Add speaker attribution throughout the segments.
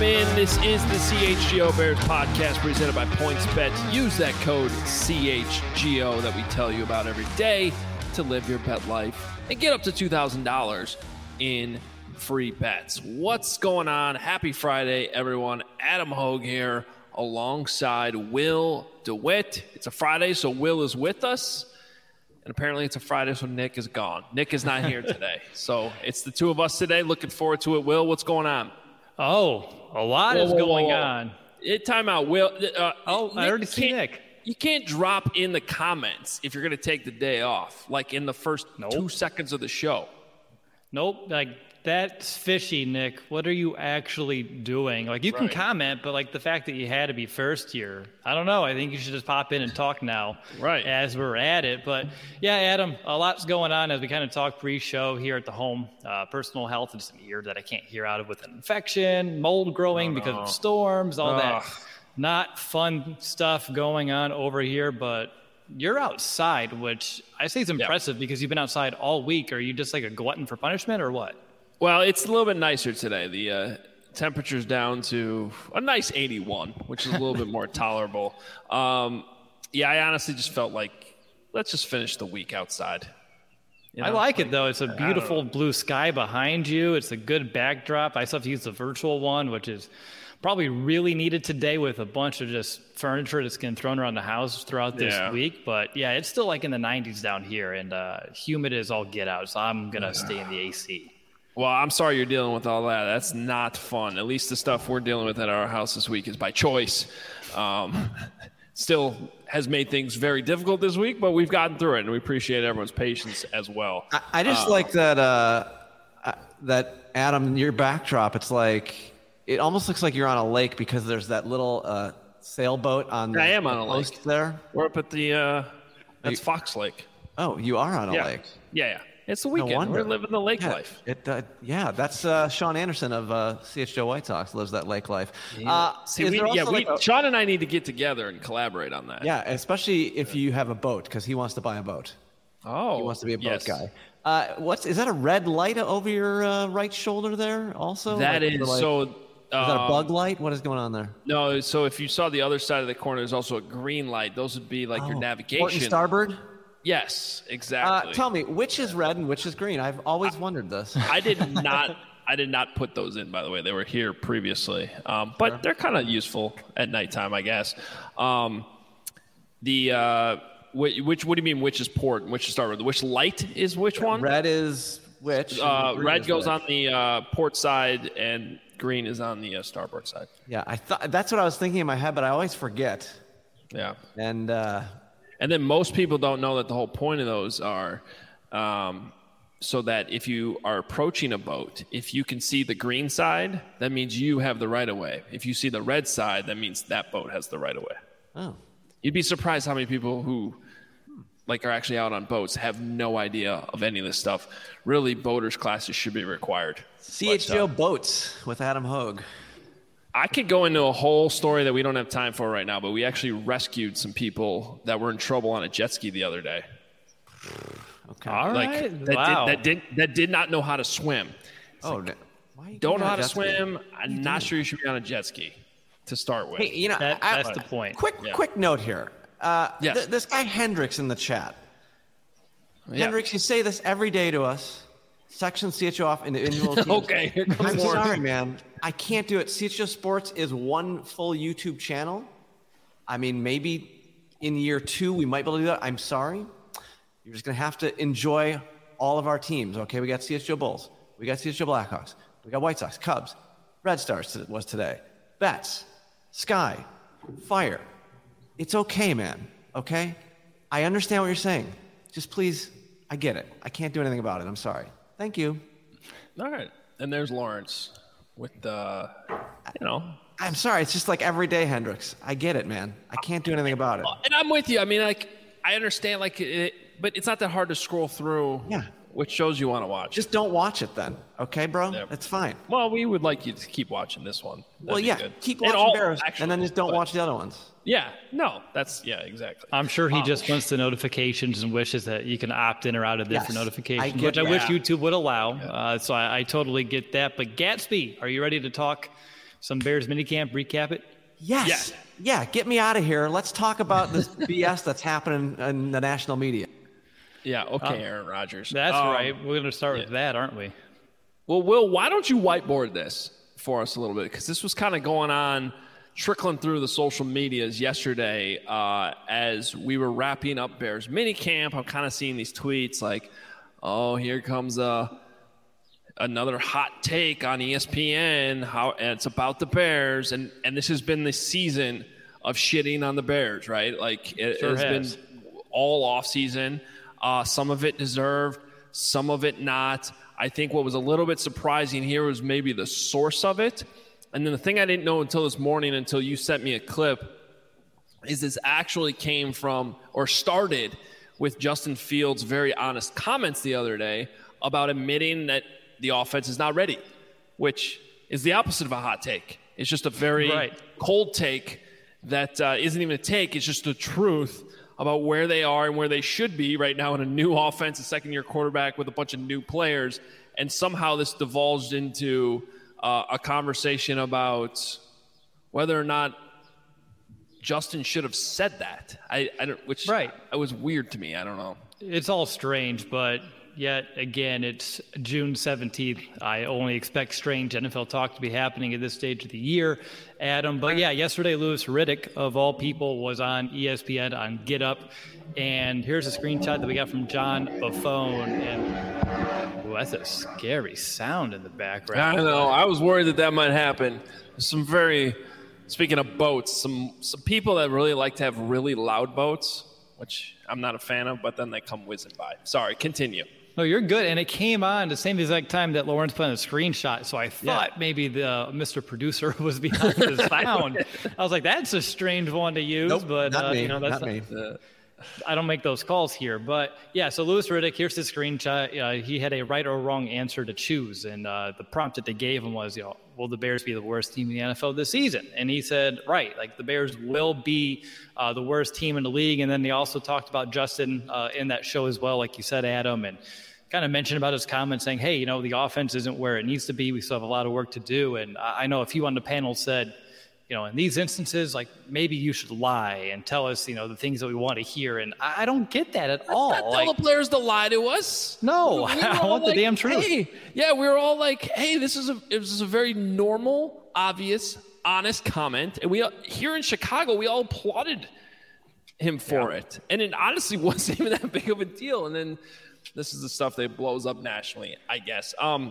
Speaker 1: in. This is the CHGO Bears podcast presented by PointsBet. Use that code CHGO that we tell you about every day to live your bet life and get up to $2,000 in free bets. What's going on? Happy Friday, everyone. Adam Hogue here alongside Will DeWitt. It's a Friday, so Will is with us. And apparently it's a Friday, so Nick is gone. Nick is not here today. So it's the two of us today. Looking forward to it. Will, what's going on?
Speaker 2: Oh, a lot is going on.
Speaker 1: Time out, Will.
Speaker 2: I already see Nick.
Speaker 1: You can't drop in the comments if you're going to take the day off, like in the first 2 seconds of the show.
Speaker 2: Nope. Like, that's fishy, Nick. What are you actually doing? Like, you can comment, but, like, the fact that you had to be first here, I don't know. I think you should just pop in and talk now as we're at it. But, yeah, Adam, a lot's going on as we kind of talk pre-show here at the home. Personal health and some ear that I can't hear out of with an infection, mold growing because of storms, all that not fun stuff going on over here. But you're outside, which I say is impressive because you've been outside all week. Are you just like a glutton for punishment or what?
Speaker 1: Well, it's a little bit nicer today. The temperature's down to a nice 81, which is a little bit more tolerable. I honestly just felt like let's just finish the week outside. You know?
Speaker 2: I like it, though. It's a beautiful blue sky behind you. It's a good backdrop. I still have to use the virtual one, which is probably really needed today with a bunch of just furniture that's getting thrown around the house throughout this week. But, yeah, it's still like in the 90s down here, and humid as all get out, so I'm going to stay in the AC.
Speaker 1: Well, I'm sorry you're dealing with all that. That's not fun. At least the stuff we're dealing with at our house this week is by choice. Still has made things very difficult this week, but we've gotten through it, and we appreciate everyone's patience as well.
Speaker 3: I just like that, that Adam, your backdrop, it's like it almost looks like you're on a lake because there's that little sailboat on the
Speaker 1: I am on a lake
Speaker 3: there.
Speaker 1: We're up at the that's Fox Lake.
Speaker 3: Oh, you are on a lake.
Speaker 1: Yeah. It's the weekend.
Speaker 3: No,
Speaker 1: we're living the lake life.
Speaker 3: That's Sean Anderson of CHGO White Sox lives that lake life.
Speaker 1: Sean and I need to get together and collaborate on that.
Speaker 3: Yeah, especially if you have a boat, because he wants to buy a boat.
Speaker 1: Oh,
Speaker 3: he wants to be a boat guy. Is that a red light over your right shoulder there? Also,
Speaker 1: that is so.
Speaker 3: Is that a bug light? What is going on there?
Speaker 1: No, so if you saw the other side of the corner, there's also a green light. Those would be like your navigation.
Speaker 3: Port and starboard.
Speaker 1: Yes, exactly.
Speaker 3: Tell me, which is red and which is green? I've always wondered this.
Speaker 1: I did not put those in, by the way. They were here previously, but they're kind of useful at nighttime, I guess. What do you mean? Which is port and which is starboard? Which light is which one?
Speaker 3: Red is which?
Speaker 1: Red goes on the port side, and green is on the starboard side.
Speaker 3: Yeah, I thought that's what I was thinking in my head, but I always forget.
Speaker 1: Yeah,
Speaker 3: and
Speaker 1: then most people don't know that the whole point of those are so that if you are approaching a boat, if you can see the green side, that means you have the right of way. If you see the red side, that means that boat has the right of way.
Speaker 3: Oh.
Speaker 1: You'd be surprised how many people who are actually out on boats have no idea of any of this stuff. Really, boaters classes should be required.
Speaker 3: CHGO Boats with Adam Hogue.
Speaker 1: I could go into a whole story that we don't have time for right now, but we actually rescued some people that were in trouble on a jet ski the other day.
Speaker 3: Okay.
Speaker 2: All right.
Speaker 1: That did not know how to swim. Don't know how to swim. I'm not sure you should be on a jet ski to start with.
Speaker 3: Hey,
Speaker 2: that's the point.
Speaker 3: Quick note here. This guy Hendricks in the chat. Hendricks, you say this every day to us. Section CHGO off individual teams.
Speaker 1: Okay, here comes
Speaker 3: I'm
Speaker 1: more.
Speaker 3: sorry, man. I can't do it. CHGO Sports is one full YouTube channel. I mean, maybe in year 2 we might be able to do that. I'm sorry. You're just going to have to enjoy all of our teams. Okay, we got CHGO Bulls. We got CHGO Blackhawks. We got White Sox, Cubs, Red Stars was today. Bets, Sky, Fire. It's okay, man. Okay? I understand what you're saying. Just please, I get it. I can't do anything about it. I'm sorry. Thank you.
Speaker 1: All right. And there's Lawrence with
Speaker 3: I'm sorry. It's just like every day, Hendricks. I get it, man. I can't do anything about it.
Speaker 1: And I'm with you. I mean, I understand, but it's not that hard to scroll through which shows you want to watch.
Speaker 3: Just don't watch it then. Okay, bro?
Speaker 1: Yep.
Speaker 3: That's fine.
Speaker 1: Well, we would like you to keep watching this one.
Speaker 3: Keep watching Bears, and then just don't watch the other ones.
Speaker 1: Yeah, no, exactly.
Speaker 2: I'm sure he just wants the notifications and wishes that you can opt in or out of different notifications, which I wish YouTube would allow. So I totally get that. But Gatsby, are you ready to talk some Bears minicamp, recap it?
Speaker 3: Yes. Yeah, get me out of here. Let's talk about this BS that's happening in the national media.
Speaker 1: Yeah, okay, Aaron Rodgers.
Speaker 2: That's right. We're going to start with that, aren't we?
Speaker 1: Well, Will, why don't you whiteboard this for us a little bit? Because this was kind of going on, trickling through the social medias yesterday as we were wrapping up Bears minicamp. I'm kind of seeing these tweets like, oh, here comes another hot take on ESPN. And it's about the Bears. And this has been the season of shitting on the Bears, right? Like, it has been all off season. Some of it deserved, some of it not. I think what was a little bit surprising here was maybe the source of it. And then the thing I didn't know until this morning, until you sent me a clip, is this actually came from or started with Justin Fields' very honest comments the other day about admitting that the offense is not ready, which is the opposite of a hot take. It's just a very cold take that isn't even a take. It's just the truth about where they are and where they should be right now in a new offense, a second-year quarterback with a bunch of new players. And somehow this divulged into a conversation about whether or not Justin should have said that. It was weird to me. I don't know.
Speaker 2: It's all strange, but yet again, it's June 17th. I only expect strange NFL talk to be happening at this stage of the year, Adam. But yeah, yesterday, Louis Riddick, of all people, was on ESPN on Get Up. And here's a screenshot that we got from John Buffone. And that's a scary sound in the background.
Speaker 1: I know. I was worried that might happen. Speaking of boats, some people that really like to have really loud boats, which I'm not a fan of, but then they come whizzing by. Sorry, continue.
Speaker 2: No, you're good. And it came on the same exact time that Lawrence put on a screenshot. So I thought maybe the Mr. Producer was behind the sound. I was like, that's a strange one to use.
Speaker 3: Nope,
Speaker 2: but
Speaker 3: not me.
Speaker 2: That's
Speaker 3: not me.
Speaker 2: I don't make those calls here. But yeah, so Louis Riddick, here's his screenshot. He had a right or wrong answer to choose. And the prompt that they gave him was, will the Bears be the worst team in the NFL this season? And he said, right, like the Bears will be the worst team in the league. And then they also talked about Justin in that show as well, like you said, Adam, and kind of mentioned about his comments saying, hey, the offense isn't where it needs to be. We still have a lot of work to do. And I know a few on the panel said, in these instances, like maybe you should lie and tell us, the things that we want to hear. And I don't get that at all.
Speaker 1: Not tell the players to lie to us.
Speaker 2: No, I want the damn truth.
Speaker 1: Hey, yeah, we were all like, hey, it was a very normal, obvious, honest comment. And we here in Chicago, we all applauded him for it. And it honestly wasn't even that big of a deal. And then this is the stuff that blows up nationally, I guess. I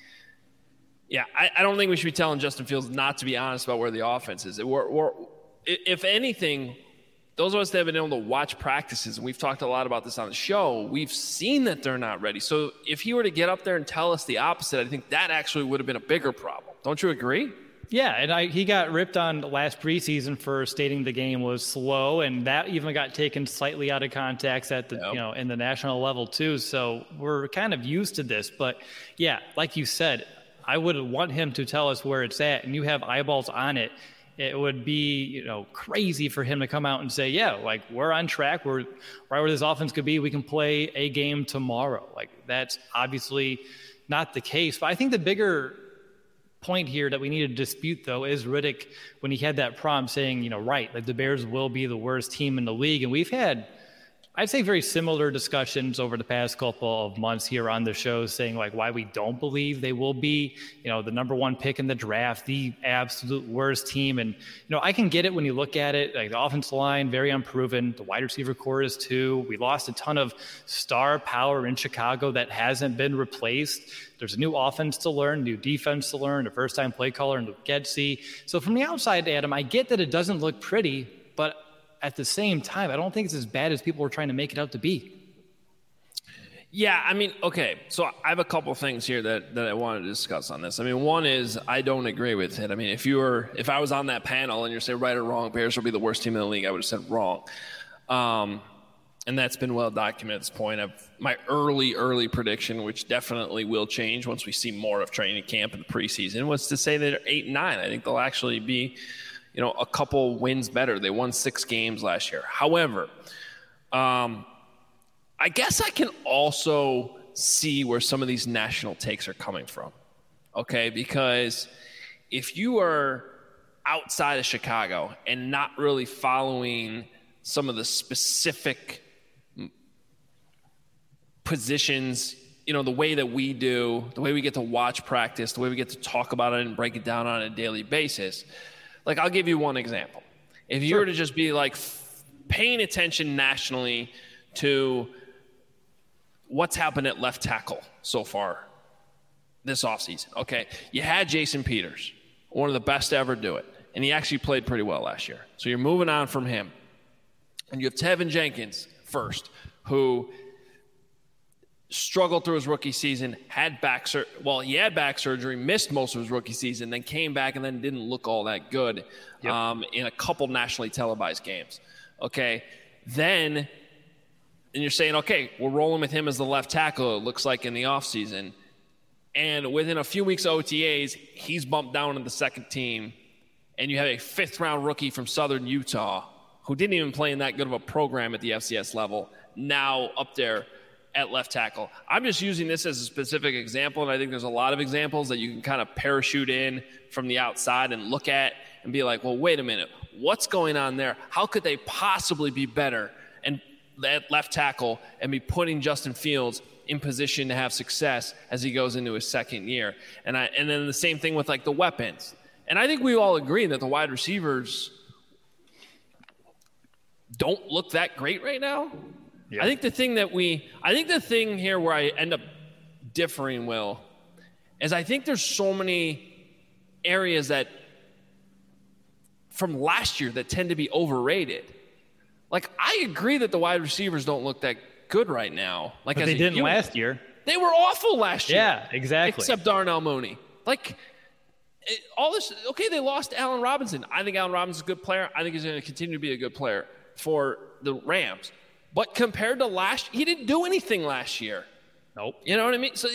Speaker 1: don't think we should be telling Justin Fields not to be honest about where the offense is. If anything, those of us that have been able to watch practices, and we've talked a lot about this on the show, we've seen that they're not ready. So if he were to get up there and tell us the opposite, I think that actually would have been a bigger problem. Don't you agree?
Speaker 2: Yeah, and he got ripped on last preseason for stating the game was slow, and that even got taken slightly out of context at the in the national level too. So we're kind of used to this, but yeah, like you said, I would want him to tell us where it's at, and you have eyeballs on it. It would be crazy for him to come out and say, yeah, like we're on track, we're right where this offense could be. We can play a game tomorrow. Like that's obviously not the case. But I think the bigger point here that we need to dispute, though, is Riddick when he had that prompt saying, right, like the Bears will be the worst team in the league. And we've had, I'd say, very similar discussions over the past couple of months here on the show saying, like, why we don't believe they will be, the number one pick in the draft, the absolute worst team. And, I can get it when you look at it. Like, the offensive line, very unproven. The wide receiver core is too. We lost a ton of star power in Chicago that hasn't been replaced. There's a new offense to learn, new defense to learn, a first-time play caller in Luke Getsy. So from the outside, Adam, I get that it doesn't look pretty, but at the same time, I don't think it's as bad as people are trying to make it out to be.
Speaker 1: Yeah, I mean, okay, so I have a couple things here that I wanted to discuss on this. I mean, one is I don't agree with it. I mean, if I was on that panel and you're saying right or wrong, Bears will be the worst team in the league, I would have said wrong. And that's been well documented at this point. My early prediction, which definitely will change once we see more of training camp in the preseason, was to say that they're 8-9. I think they'll actually be, a couple wins better. They won 6 games last year. However, I guess I can also see where some of these national takes are coming from. Okay, because if you are outside of Chicago and not really following some of the specific positions, the way that we do, the way we get to watch practice, the way we get to talk about it and break it down on a daily basis. Like, I'll give you one example. If you were to just be like paying attention nationally to what's happened at left tackle so far this offseason, okay? You had Jason Peters, one of the best to ever do it, and he actually played pretty well last year. So you're moving on from him. And you have Tevin Jenkins first, who struggled through his rookie season, had back surgery, missed most of his rookie season, then came back and then didn't look all that good in a couple nationally televised games. Okay, and you're saying, okay, we're rolling with him as the left tackle, it looks like, in the offseason. And within a few weeks of OTAs, he's bumped down to the second team, and you have a fifth-round rookie from Southern Utah who didn't even play in that good of a program at the FCS level, now up there at left tackle. I'm just using this as a specific example, and I think there's a lot of examples that you can kind of parachute in from the outside and look at and be like, well, wait a minute, what's going on there? How could they possibly be better and at left tackle and be putting Justin Fields in position to have success as he goes into his second year? And then the same thing with like the weapons. And I think we all agree that the wide receivers don't look that great right now. Yeah. I think the thing here where I end up differing, Will, is I think there's so many areas that from last year that tend to be overrated. Like, I agree that the wide receivers don't look that good right now. Like,
Speaker 2: but they didn't last year.
Speaker 1: They were awful last year.
Speaker 2: Yeah, exactly.
Speaker 1: Except Darnell Mooney. Like, all this, okay, they lost Allen Robinson. I think Allen Robinson's a good player. I think he's going to continue to be a good player for the Rams. But compared to he didn't do anything last year.
Speaker 2: Nope.
Speaker 1: You know what I mean? So,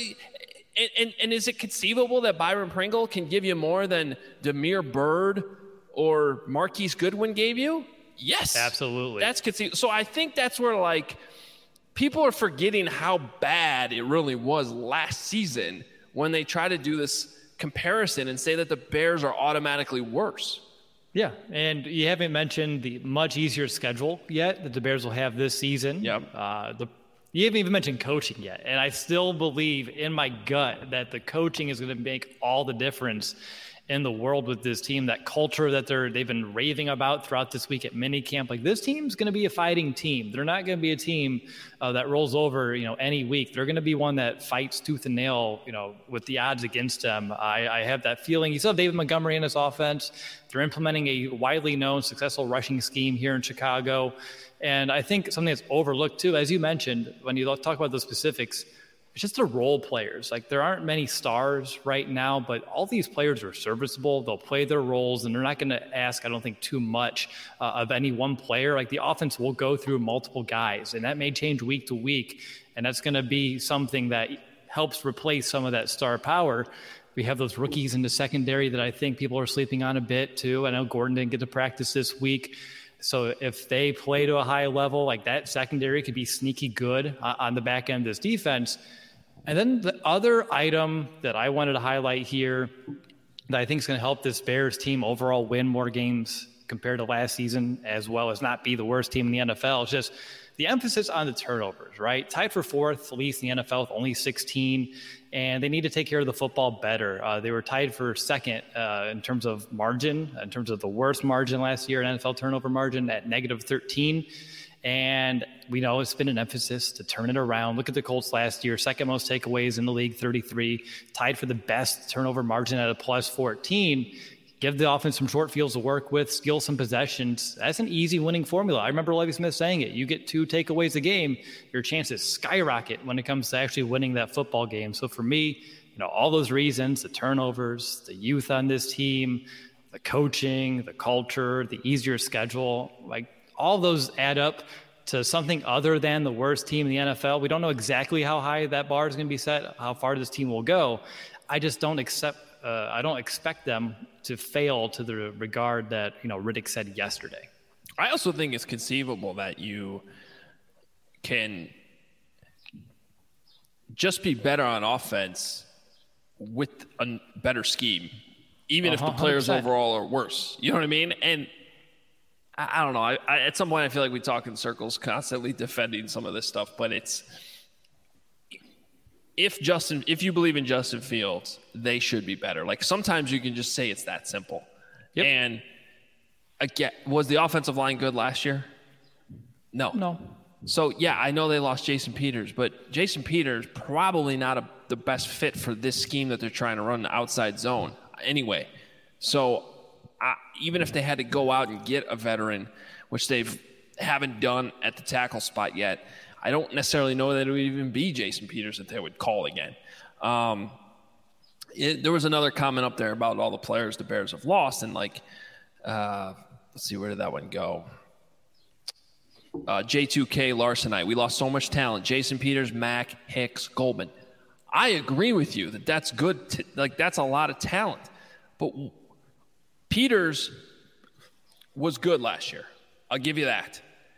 Speaker 1: and is it conceivable that Byron Pringle can give you more than Damiere Byrd or Marquise Goodwin gave you? Yes.
Speaker 2: Absolutely.
Speaker 1: That's conceivable. So I think that's where, like, people are forgetting how bad it really was last season when they try to do this comparison and say that the Bears are automatically worse.
Speaker 2: Yeah, and you haven't mentioned the much easier schedule yet that the Bears will have this season.
Speaker 1: Yep.
Speaker 2: You haven't even mentioned coaching yet, and I still believe in my gut that the coaching is going to make all the difference in the world with this team. That culture that they've been raving about throughout this week at minicamp. Like, this team's going to be a fighting team. They're not going to be a team that rolls over, any week. They're going to be one that fights tooth and nail, with the odds against them. I have that feeling. You still have David Montgomery in this offense. They're implementing a widely known successful rushing scheme here in Chicago. And I think something that's overlooked too, as you mentioned, when you talk about the specifics, it's just the role players. Like, there aren't many stars right now, but all these players are serviceable. They'll play their roles, and they're not going to ask, I don't think, too much of any one player. Like, the offense will go through multiple guys, and that may change week to week, and that's going to be something that helps replace some of that star power. We have those rookies in the secondary that I think people are sleeping on a bit too. I know Gordon didn't get to practice this week. So if they play to a high level, like, that secondary could be sneaky good on the back end of this defense. And then the other item that I wanted to highlight here that I think is going to help this Bears team overall win more games compared to last season, as well as not be the worst team in the NFL, is just the emphasis on the turnovers, right? Tied for fourth, least in the NFL with only 16, and they need to take care of the football better. They were tied for second in terms of margin, in terms of the worst margin last year in NFL turnover margin at -13. And we know it's been an emphasis to turn it around. Look at the Colts last year, second most takeaways in the league, 33, tied for the best turnover margin at a +14. Give the offense some short fields to work with, steal some possessions. That's an easy winning formula. I remember Lovie Smith saying it. You get 2 takeaways a game, your chances skyrocket when it comes to actually winning that football game. So for me, all those reasons, the turnovers, the youth on this team, the coaching, the culture, the easier schedule, like, all those add up to something other than the worst team in the NFL. We don't know exactly how high that bar is going to be set, how far this team will go. I just don't expect them to fail to the regard that, Riddick said yesterday.
Speaker 1: I also think it's conceivable that you can just be better on offense with a better scheme even if the players overall are worse. You know what I mean? And I don't know. I at some point, I feel like we talk in circles, constantly defending some of this stuff. But it's if you believe in Justin Fields, they should be better. Like sometimes you can just say it's that simple.
Speaker 2: Yep.
Speaker 1: And again, was the offensive line good last year? No. So yeah, I know they lost Jason Peters, but Jason Peters probably not the best fit for this scheme that they're trying to run, the outside zone anyway. So even if they had to go out and get a veteran, which they haven't done at the tackle spot yet, I don't necessarily know that it would even be Jason Peters that they would call again. There was another comment up there about all the players the Bears have lost, and let's see, where did that one go? J2K Larsenite. We lost so much talent. Jason Peters, Mack, Hicks, Goldman. I agree with you that's good. That's a lot of talent. But Peters was good last year. I'll give you that.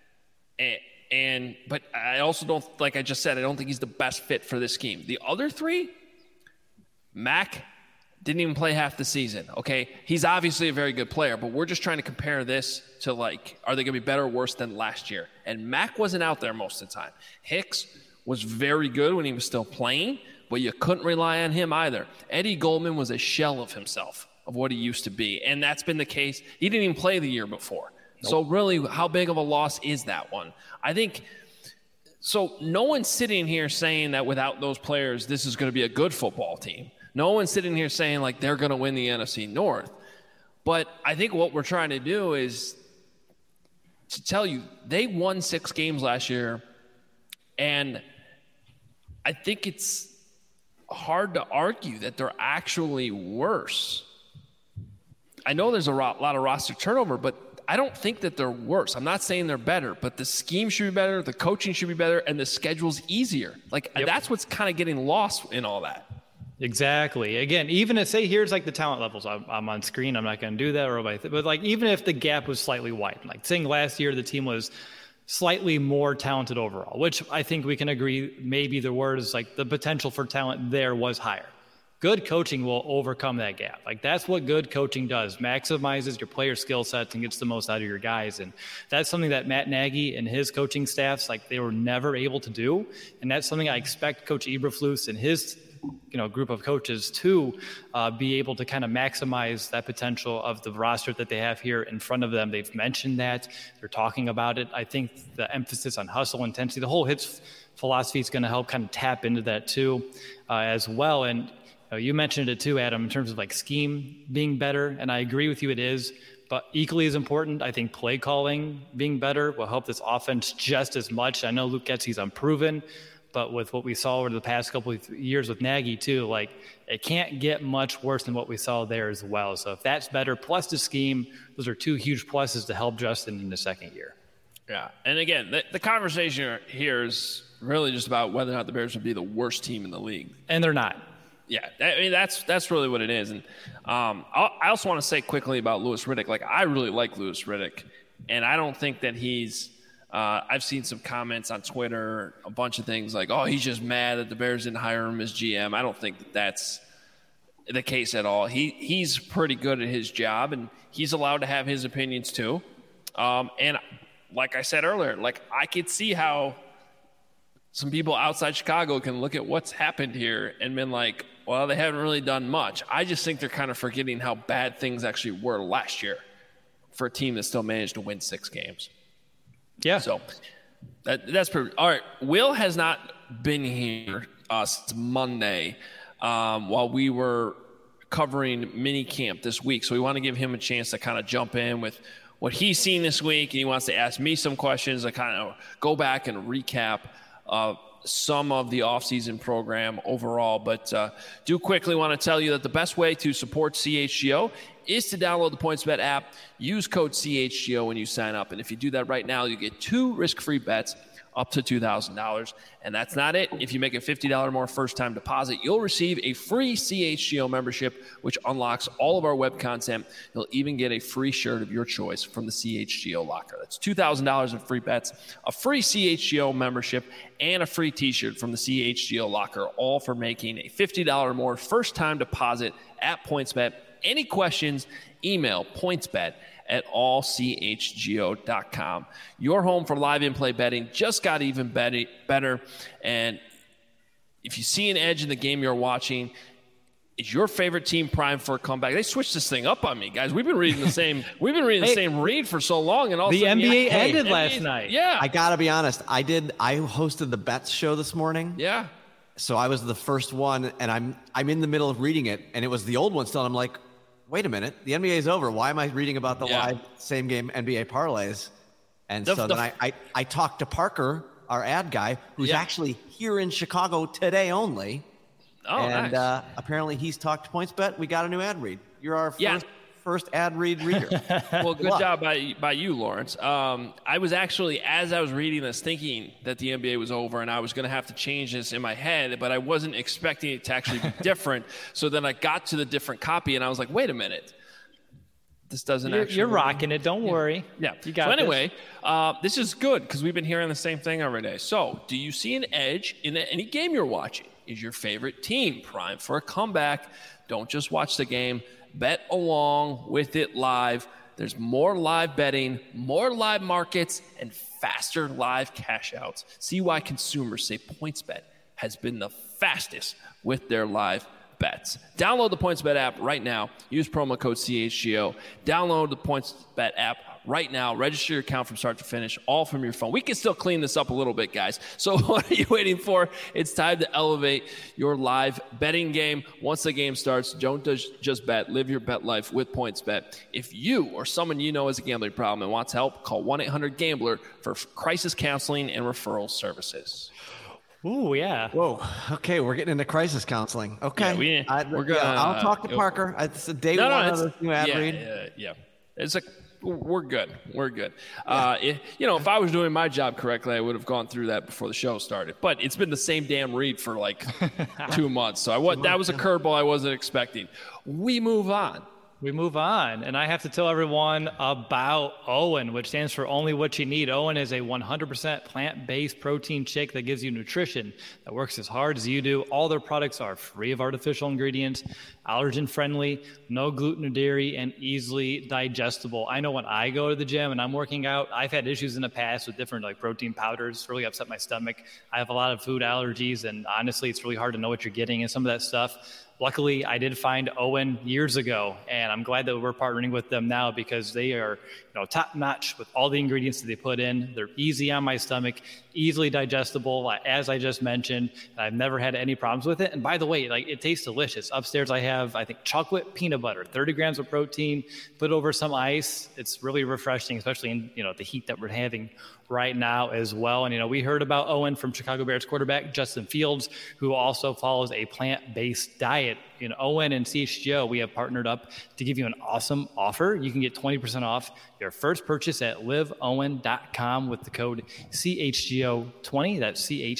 Speaker 1: But I also don't, like I just said, I don't think he's the best fit for this scheme. The other three, Mack didn't even play half the season, okay? He's obviously a very good player, but we're just trying to compare this to, are they going to be better or worse than last year? And Mack wasn't out there most of the time. Hicks was very good when he was still playing, but you couldn't rely on him either. Eddie Goldman was a shell of himself, of what he used to be, and that's been the case. He didn't even play the year before. Nope. So really, how big of a loss is that one? I think so. No one's sitting here saying that without those players, this is going to be a good football team. No one's sitting here saying they're going to win the NFC North. But I think what we're trying to do is to tell you they won 6 games last year, and I think it's hard to argue that they're actually worse. I know there's a lot of roster turnover, but I don't think that they're worse. I'm not saying they're better, but the scheme should be better, the coaching should be better, and the schedule's easier. That's what's kind of getting lost in all that.
Speaker 2: Exactly. Again, even if, say, here's the talent levels. I'm on screen. I'm not going to do that. But even if the gap was slightly widened, saying last year the team was slightly more talented overall, which I think we can agree maybe the word is the potential for talent there was higher. Good coaching will overcome that gap. That's what good coaching does. Maximizes your player skill sets and gets the most out of your guys. And that's something that Matt Nagy and his coaching staffs, they were never able to do. And that's something I expect Coach Eberflus and his group of coaches to be able to kind of maximize that potential of the roster that they have here in front of them. They've mentioned that. They're talking about it. I think the emphasis on hustle intensity, the whole HITS philosophy is going to help kind of tap into that too as well. And you mentioned it too, Adam, in terms of scheme being better, and I agree with you, it is. But equally as important, I think play calling being better will help this offense just as much. I know Luke Getsy's unproven, but with what we saw over the past couple of years with Nagy too, it can't get much worse than what we saw there as well. So if that's better, plus the scheme, those are 2 huge pluses to help Justin in the second year.
Speaker 1: Yeah, and again, the conversation here is really just about whether or not the Bears would be the worst team in the league.
Speaker 2: And they're not.
Speaker 1: Yeah, I mean, that's really what it is. And I also want to say quickly about Louis Riddick. I really like Louis Riddick, and I don't think that he's I've seen some comments on Twitter, a bunch of things he's just mad that the Bears didn't hire him as GM. I don't think that that's the case at all. He's pretty good at his job, and he's allowed to have his opinions too. And like I said earlier, I could see how some people outside Chicago can look at what's happened here and been well, they haven't really done much. I just think they're kind of forgetting how bad things actually were last year for a team that still managed to win 6 games.
Speaker 2: Yeah.
Speaker 1: So that's perfect. All right. Will has not been here since Monday while we were covering mini camp this week. So we want to give him a chance to kind of jump in with what he's seen this week. And he wants to ask me some questions to kind of go back and recap some of the offseason program overall. But do quickly want to tell you that the best way to support CHGO is to download the PointsBet app, use code CHGO when you sign up. And if you do that right now, you get 2 risk-free bets up to $2,000. And that's not it. If you make a $50 more first-time deposit, you'll receive a free CHGO membership, which unlocks all of our web content. You'll even get a free shirt of your choice from the CHGO locker. That's $2,000 in free bets, a free CHGO membership, and a free t-shirt from the CHGO locker, all for making a $50 more first-time deposit at PointsBet any questions, email pointsbet@allchgo.com. Your home for live in-play betting just got even better. And if you see an edge in the game you're watching, is your favorite team primed for a comeback? They switched this thing up on me, guys. We've been reading the same. Same read for so long, and all
Speaker 2: the NBA ended last night.
Speaker 1: Yeah,
Speaker 3: I gotta be honest. I hosted the bets show this morning.
Speaker 1: Yeah.
Speaker 3: So I was the first one, and I'm in the middle of reading it, and it was the old one still. And I'm like, wait a minute, the NBA is over. Why am I reading about the live same game NBA parlays? And then I talked to Parker, our ad guy, who's actually here in Chicago today only.
Speaker 1: Oh,
Speaker 3: and
Speaker 1: nice.
Speaker 3: Apparently he's talked to PointsBet. We got a new ad read. You're our first ad read reader.
Speaker 1: Well, good job by you, Lawrence. I was actually, as I was reading this, thinking that the NBA was over and I was going to have to change this in my head, but I wasn't expecting it to actually be different. So then I got to the different copy and I was like, wait a minute. This doesn't actually.
Speaker 2: You're rocking it. Don't worry.
Speaker 1: Yeah.
Speaker 2: You got
Speaker 1: so anyway, this is good because we've been hearing the same thing every day. So do you see an edge in any game you're watching? Is your favorite team primed for a comeback? Don't just watch the game. Bet along with it live. There's more live betting, more live markets, and faster live cash outs. See why consumers say PointsBet has been the fastest with their live bets. Download the PointsBet app right now. Use promo code CHGO. Download the PointsBet app right now. Register your account from start to finish, all from your phone. We can still clean this up a little bit, guys. So what are you waiting for? It's time to elevate your live betting game. Once the game starts, don't just bet. Live your bet life with PointsBet. If you or someone you know has a gambling problem and wants help, call 1-800-GAMBLER for crisis counseling and referral services.
Speaker 2: Ooh, yeah.
Speaker 3: Whoa. Okay, we're getting into crisis counseling. Okay.
Speaker 1: Yeah, we're gonna.
Speaker 3: I'll talk to Parker. It's a day one of this new ad read.
Speaker 1: Yeah. We're good. We're good. If I was doing my job correctly, I would have gone through that before the show started. But it's been the same damn read for like 2 months. So that was a curveball I wasn't expecting. We move on.
Speaker 2: And I have to tell everyone about OWYN, which stands for Only What You Need. OWYN is a 100% plant-based protein shake that gives you nutrition that works as hard as you do. All their products are free of artificial ingredients, allergen-friendly, no gluten or dairy, and easily digestible. I know when I go to the gym and I'm working out, I've had issues in the past with different protein powders, really upset my stomach. I have a lot of food allergies, and honestly, it's really hard to know what you're getting in some of that stuff. Luckily, I did find OWYN years ago, and I'm glad that we're partnering with them now because they are, top-notch with all the ingredients that they put in. They're easy on my stomach, easily digestible, as I just mentioned. And I've never had any problems with it. And by the way, it tastes delicious. Upstairs, I have, I think, chocolate peanut butter, 30 grams of protein, put over some ice. It's really refreshing, especially in, the heat that we're having right now as well. And, we heard about OWYN from Chicago Bears quarterback Justin Fields, who also follows a plant-based diet. OWYN and CHGO, we have partnered up to give you an awesome offer. You can get 20% off your first purchase at liveowyn.com with the code CHGO20. That's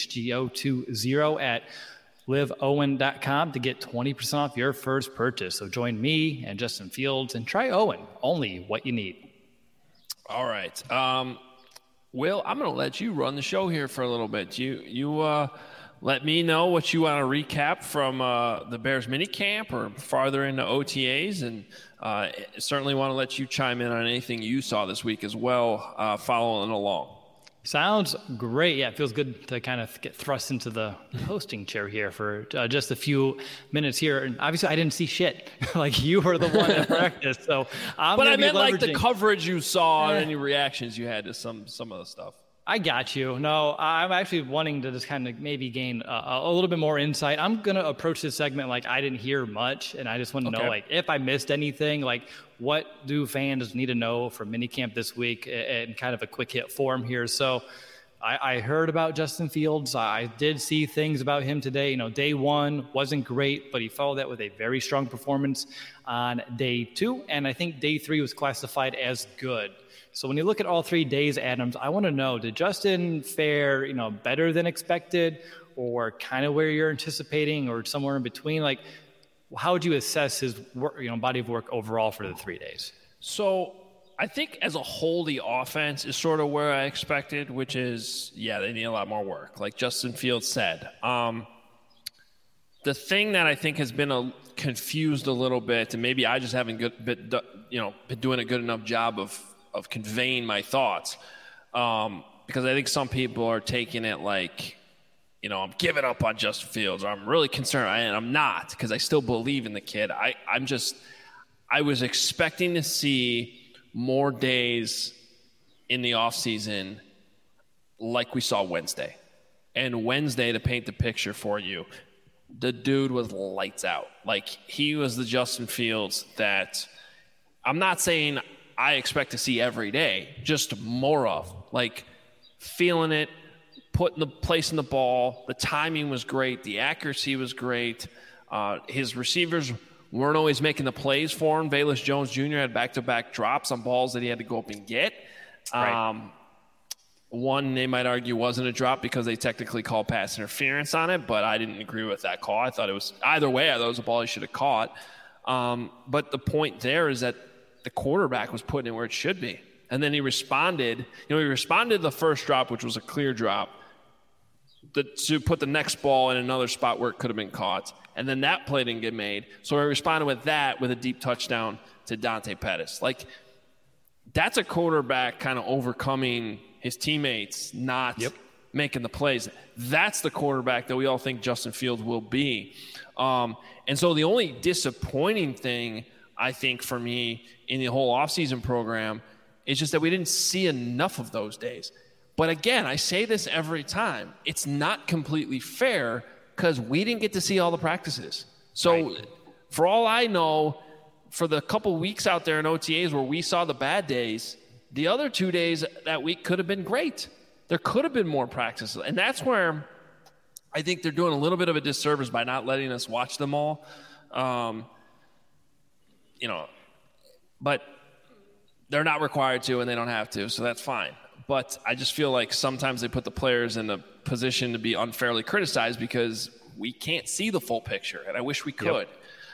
Speaker 2: CHGO20 at liveowyn.com to get 20% off your first purchase. So join me and Justin Fields and try OWYN. Only what you need.
Speaker 1: All right. Will, I'm going to let you run the show here for a little bit. You let me know what you want to recap from the Bears minicamp or farther into OTAs, and certainly want to let you chime in on anything you saw this week as well, following along.
Speaker 2: Sounds great. Yeah, it feels good to kind of get thrust into the hosting chair here for just a few minutes here. And obviously, I didn't see shit. You were the one at practice, so
Speaker 1: But I meant the coverage you saw and any reactions you had to some of the stuff.
Speaker 2: I got you. No, I'm actually wanting to just kind of maybe gain a little bit more insight. I'm going to approach this segment like I didn't hear much, and I just want to know, if I missed anything, what do fans need to know from minicamp this week in kind of a quick hit form here. So I heard about Justin Fields. I did see things about him today. Day one wasn't great, but he followed that with a very strong performance on day 2, and I think day 3 was classified as good. So when you look at all 3 days, Adams, I want to know, did Justin fare, better than expected, or kind of where you're anticipating, or somewhere in between? How would you assess his work, body of work overall for the 3 days?
Speaker 1: So I think as a whole, the offense is sort of where I expected, which is, they need a lot more work, like Justin Fields said. the thing that I think has been confused a little bit, and maybe I just haven't been doing a good enough job of conveying my thoughts, because I think some people are taking it like, I'm giving up on Justin Fields, or I'm really concerned, and I'm not, because I still believe in the kid. I was expecting to see more days in the offseason like we saw Wednesday. And Wednesday, to paint the picture for you, the dude was lights out. Like, he was the Justin Fields that I'm not saying I expect to see every day, just more of. Like, feeling it, placing the ball. The timing was great. The accuracy was great. His receivers weren't always making the plays for him. Velus Jones Jr. had back-to-back drops on balls that he had to go up and get. Right. One, they might argue, wasn't a drop because they technically called pass interference on it, but I didn't agree with that call. I thought it was either way. I thought it was a ball he should have caught. But the point there is that the quarterback was putting it where it should be. And then he responded. He responded to the first drop, which was a clear drop, to put the next ball in another spot where it could have been caught. And then that play didn't get made. So he responded with that, with a deep touchdown to Dante Pettis. Like, that's a quarterback kind of overcoming his teammates, not making the plays. That's the quarterback that we all think Justin Fields will be. And so the only disappointing thing, I think, for me in the whole offseason program is just that we didn't see enough of those days. But again, I say this every time. It's not completely fair because we didn't get to see all the practices. So for all I know, for the couple weeks out there in OTAs where we saw the bad days, the other 2 days that week could have been great. There could have been more practices. And that's where I think they're doing a little bit of a disservice by not letting us watch them all. But they're not required to, and they don't have to, so that's fine. But I just feel like sometimes they put the players in a position to be unfairly criticized because we can't see the full picture, and I wish we could.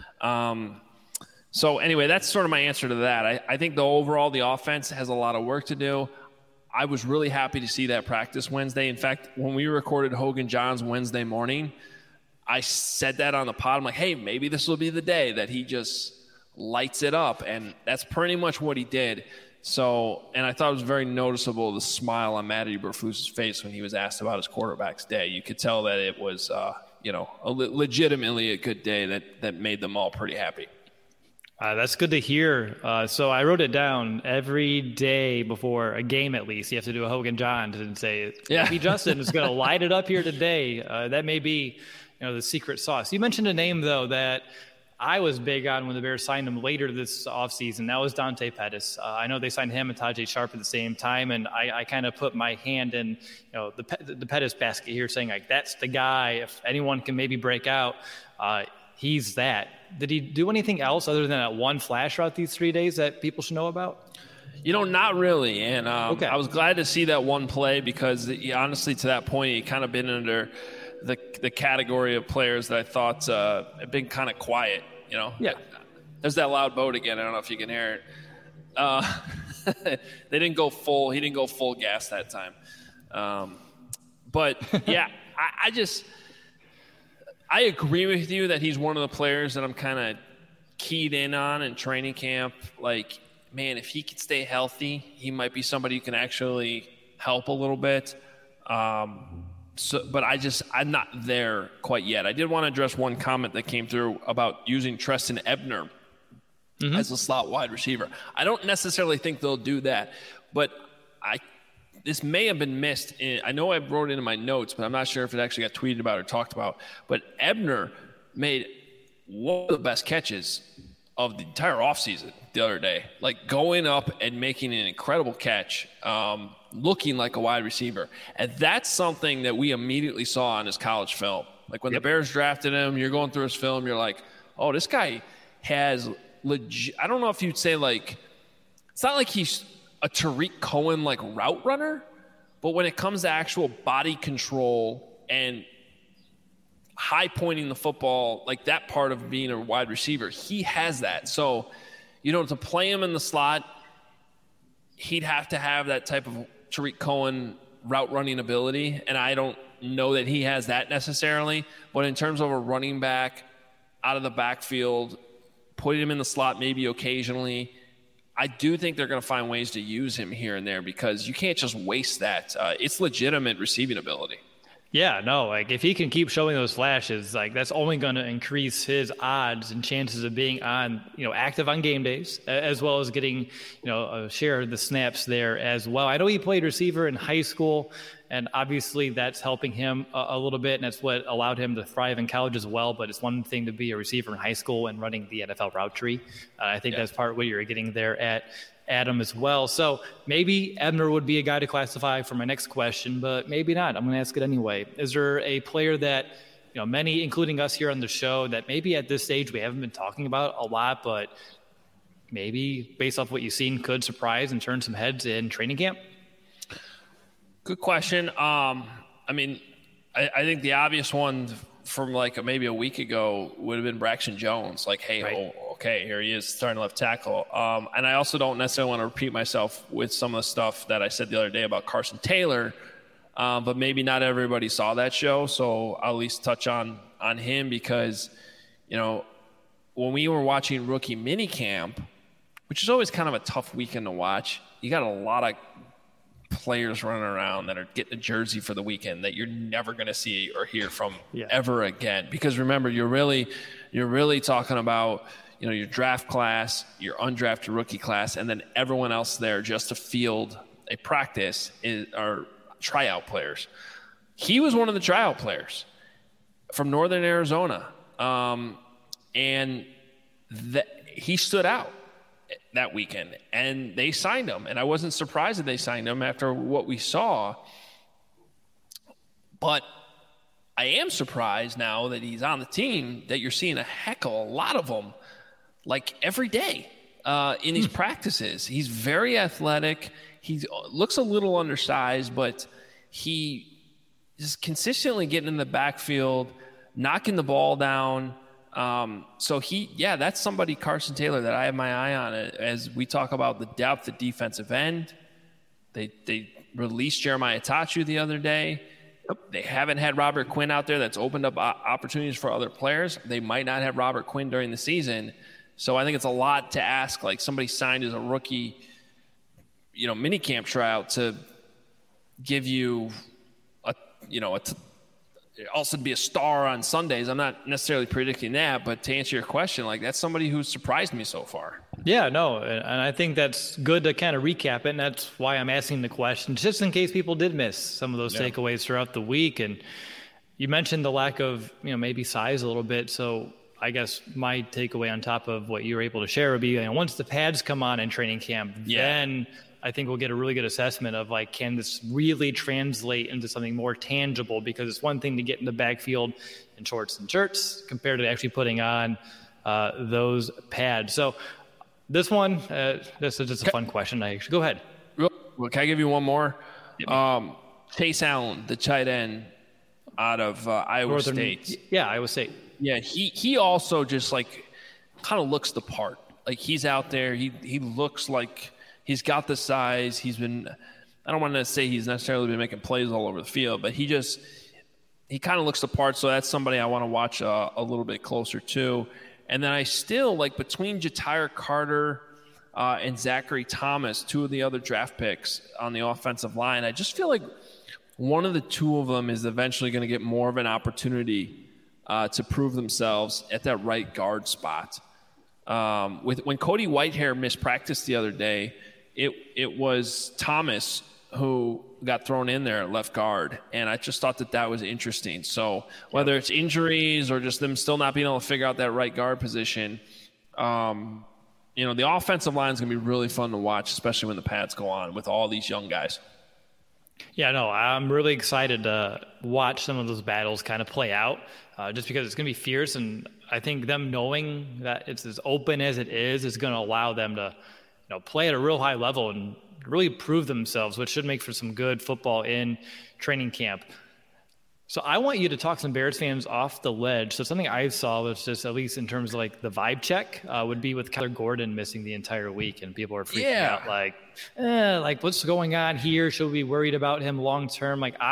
Speaker 1: So anyway, that's sort of my answer to that. I think the offense has a lot of work to do. I was really happy to see that practice Wednesday. In fact, when we recorded Hogan Johns Wednesday morning, I said that on the pod. I'm like, hey, maybe this will be the day that he just lights it up. And that's pretty much what he did. So, and I thought it was very noticeable, the smile on Matt Eberflus's face when he was asked about his quarterback's day. You could tell that it was, legitimately a good day that made them all pretty happy.
Speaker 2: That's good to hear. So I wrote it down every day before a game, at least. You have to do a Hogan Johns and say, maybe Justin is going to light it up here today. That may be, the secret sauce. You mentioned a name, though, that I was big on when the Bears signed him later this offseason. That was Dante Pettis. I know they signed him and Tajay Sharp at the same time, and I kind of put my hand in the Pettis basket here, saying, like, that's the guy. If anyone can maybe break out, he's that. Did he do anything else other than that one flash route these 3 days that people should know about?
Speaker 1: Not really. And I was glad to see that one play because, honestly, to that point, he kind of been under the category of players that I thought have been kind of quiet. Yeah. There's that loud boat again. I don't know if you can hear it. They didn't go full. He didn't go full gas that time. But yeah, I agree with you that he's one of the players that I'm kind of keyed in on in training camp. Like, man, if he could stay healthy, he might be somebody who can actually help a little bit. But I'm not there quite yet. I did want to address one comment that came through about using Trestan Ebner as a slot wide receiver. I don't necessarily think they'll do that, but this may have been missed. I know I wrote it in my notes, but I'm not sure if it actually got tweeted about or talked about. But Ebner made one of the best catches of the entire offseason the other day. Like, going up and making an incredible catch, looking like a wide receiver. And that's something that we immediately saw on his college film. Like, when the Bears drafted him, you're going through his film, you're like, oh, this guy has legit – I don't know if you'd say, like – it's not like he's – a Tariq Cohen like route runner, but when it comes to actual body control and high pointing the football, like that part of being a wide receiver, he has that. So, to play him in the slot, he'd have to have that type of Tariq Cohen route running ability, and I don't know that he has that necessarily. But in terms of a running back out of the backfield, putting him in the slot maybe occasionally, I do think they're going to find ways to use him here and there because you can't just waste that. It's legitimate receiving ability.
Speaker 2: Yeah, no, like if he can keep showing those flashes, like that's only going to increase his odds and chances of being on, active on game days, as well as getting, a share of the snaps there as well. I know he played receiver in high school, and obviously that's helping him a little bit, and that's what allowed him to thrive in college as well. But it's one thing to be a receiver in high school and running the NFL route tree. I think that's part of what you're getting there at Adam as well. So maybe Ebner would be a guy to classify for my next question, but maybe not. I'm going to ask it anyway. Is there a player that, many, including us here on the show, that maybe at this stage we haven't been talking about a lot, but maybe based off what you've seen could surprise and turn some heads in training camp?
Speaker 1: Good question. I think the obvious one from maybe a week ago would have been Braxton Jones. Okay, here he is starting left tackle. And I also don't necessarily want to repeat myself with some of the stuff that I said the other day about Carson Taylor, but maybe not everybody saw that show, so I'll at least touch on him because, when we were watching rookie minicamp, which is always kind of a tough weekend to watch, you got a lot of players running around that are getting a jersey for the weekend that you're never going to see or hear from ever again. Because remember, you're really talking about, your draft class, your undrafted rookie class, and then everyone else there just to field a practice are tryout players. He was one of the tryout players from Northern Arizona. And he stood out that weekend, and they signed him. And I wasn't surprised that they signed him after what we saw. But I am surprised now that he's on the team that you're seeing a lot of them, every day in these practices. He's very athletic. He looks a little undersized, but he is consistently getting in the backfield, knocking the ball down. So that's somebody, Carson Taylor, that I have my eye on as we talk about the depth at defensive end. They released Jeremiah Tachu the other day. They haven't had Robert Quinn out there. That's opened up opportunities for other players. They might not have Robert Quinn during the season. So I think it's a lot to ask, somebody signed as a rookie, minicamp tryout to give you also to be a star on Sundays. I'm not necessarily predicting that, but to answer your question, that's somebody who's surprised me so far.
Speaker 2: Yeah, no, and I think that's good to kind of recap it, and that's why I'm asking the question, just in case people did miss some of those takeaways throughout the week. And you mentioned the lack of, maybe size a little bit, so I guess my takeaway on top of what you were able to share would be, once the pads come on in training camp, then I think we'll get a really good assessment of can this really translate into something more tangible? Because it's one thing to get in the backfield in shorts and shirts compared to actually putting on those pads. So this one, this is just a fun question. Go ahead.
Speaker 1: Well, can I give you one more? Chase Allen, the tight end out of Iowa State.
Speaker 2: Yeah, Iowa State.
Speaker 1: Yeah, he also just kind of looks the part. He's out there. He looks like he's got the size. He's been, I don't want to say he's necessarily been making plays all over the field, but he kind of looks the part. So that's somebody I want to watch a little bit closer to. And then I still between Ja'Tyre Carter and Zachary Thomas, two of the other draft picks on the offensive line, I just feel like one of the two of them is eventually going to get more of an opportunity to prove themselves at that right guard spot. When Cody Whitehair missed practice the other day, it was Thomas who got thrown in there at left guard, and I just thought that was interesting. So whether it's injuries or just them still not being able to figure out that right guard position, the offensive line is going to be really fun to watch, especially when the pads go on with all these young guys.
Speaker 2: Yeah, no, I'm really excited to watch some of those battles kind of play out, just because it's going to be fierce. And I think them knowing that it's as open as it is going to allow them to, play at a real high level and really prove themselves, which should make for some good football in training camp. So I want you to talk some Bears fans off the ledge. So something I saw was just, at least in terms of the vibe check, would be with Kyler Gordon missing the entire week, and people are freaking out what's going on here? Should we be worried about him long term? I'm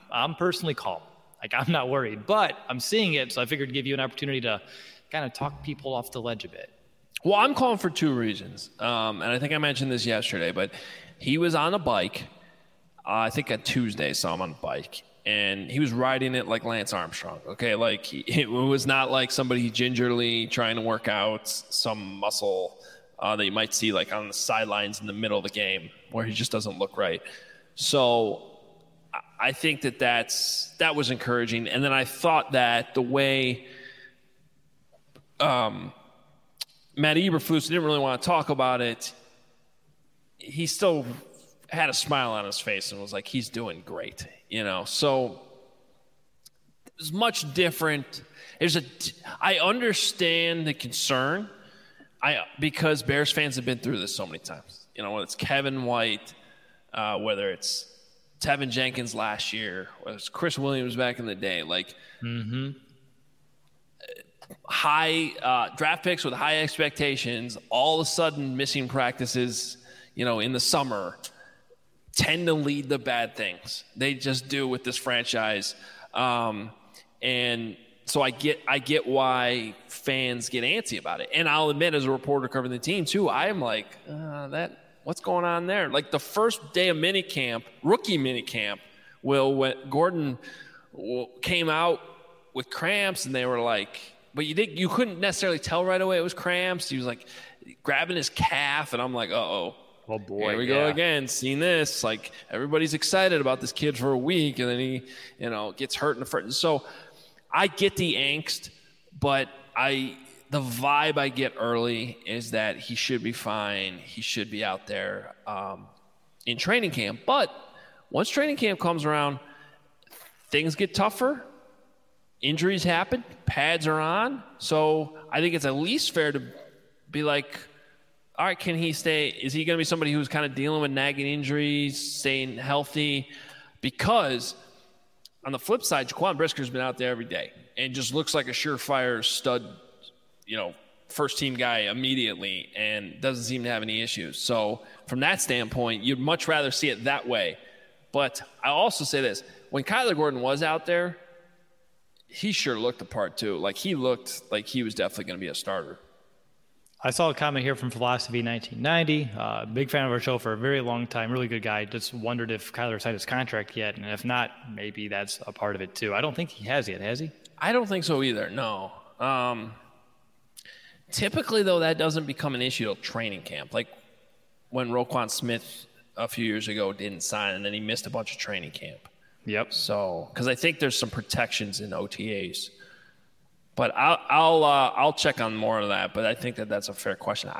Speaker 2: I'm personally calm. Like, I'm not worried, but I'm seeing it, so I figured to give you an opportunity to kind of talk people off the ledge a bit.
Speaker 1: Well, I'm calling for two reasons, and I think I mentioned this yesterday, but he was on a bike. I think on Tuesday, saw him on a bike, and he was riding it like Lance Armstrong. Okay, like it was not like somebody gingerly trying to work out some muscle that you might see like on the sidelines in the middle of the game where he just doesn't look right. So I think that was encouraging. And then I thought that the way Matt Eberflus didn't really want to talk about it, he still had a smile on his face and was like, he's doing great, So it's much different. I understand the concern because Bears fans have been through this so many times. Whether it's Kevin White, whether it's Tevin Jenkins last year, whether it's Chris Williams back in the day, high draft picks with high expectations, all of a sudden missing practices, in the summer, tend to lead to bad things. They just do with this franchise. And so I get why fans get antsy about it. And I'll admit, as a reporter covering the team too, I am like, what's going on there? Like the first day of rookie minicamp, when Gordon came out with cramps, and they were like, but you couldn't necessarily tell right away it was cramps. He was like grabbing his calf, and I'm like, oh boy, here we go again, seeing this. Like everybody's excited about this kid for a week, and then he, gets hurt in the first. So I get the angst, but the vibe I get early is that he should be fine. He should be out there in training camp. But once training camp comes around, things get tougher. Injuries happen. Pads are on. So I think it's at least fair to be like, all right, can he stay? Is he going to be somebody who's kind of dealing with nagging injuries, staying healthy? Because on the flip side, Jaquan Brisker's been out there every day and just looks like a surefire stud, first-team guy immediately, and doesn't seem to have any issues. So from that standpoint, you'd much rather see it that way. But I'll also say this. When Kyler Gordon was out there, he sure looked the part too. Like he looked like he was definitely going to be a starter.
Speaker 2: I saw a comment here from Philosophy 1990. Big fan of our show for a very long time. Really good guy. Just wondered if Kyler signed his contract yet. And if not, maybe that's a part of it too. I don't think he has yet, has he?
Speaker 1: I don't think so either, no. Typically, though, that doesn't become an issue till training camp. Like when Roquan Smith a few years ago didn't sign, and then he missed a bunch of training camp.
Speaker 2: Yep.
Speaker 1: So, because I think there's some protections in OTAs. But I'll check on more of that. But I think that's a fair question.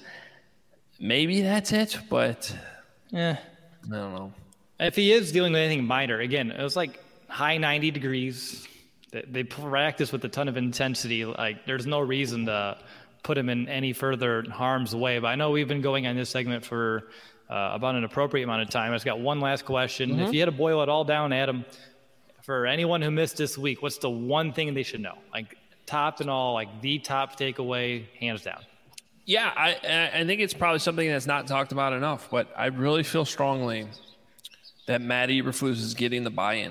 Speaker 1: Maybe that's it, but I don't know.
Speaker 2: If he is dealing with anything minor, again, it was like high 90 degrees. They practice with a ton of intensity. Like there's no reason to put him in any further harm's way. But I know we've been going on this segment for about an appropriate amount of time. I just got one last question. Mm-hmm. If you had to boil it all down, Adam, for anyone who missed this week, what's the one thing they should know? Like top and all, like the top takeaway, hands down.
Speaker 1: Yeah, I think it's probably something that's not talked about enough, but I really feel strongly that Matt Eberflus is getting the buy-in.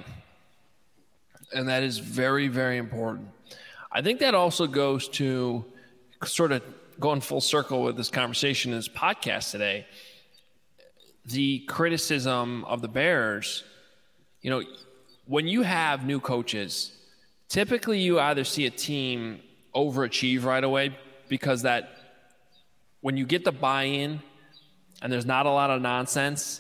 Speaker 1: And that is very, very important. I think that also goes to sort of going full circle with this conversation in this podcast today. The criticism of the Bears, when you have new coaches, typically you either see a team overachieve right away because that when you get the buy-in and there's not a lot of nonsense,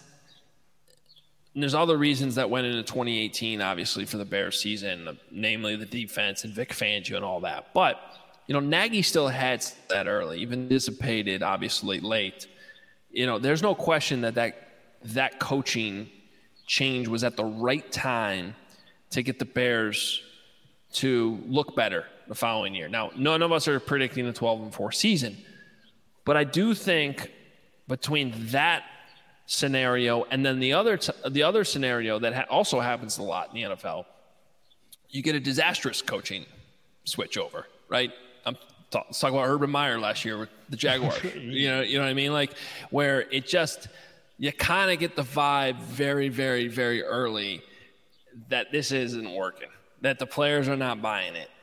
Speaker 1: and there's other reasons that went into 2018, obviously, for the Bears season, namely the defense and Vic Fangio and all that. But, Nagy still had that early, even dissipated, obviously, late. There's no question that coaching change was at the right time to get the Bears to look better the following year. Now, none of us are predicting the 12-4 season, but I do think between that scenario and then the other scenario that also happens a lot in the NFL, you get a disastrous coaching switch over, right? Let's talk about Urban Meyer last year with the Jaguars. you know what I mean? Like where it just, you kind of get the vibe very, very, very early that this isn't working, that the players are not buying it.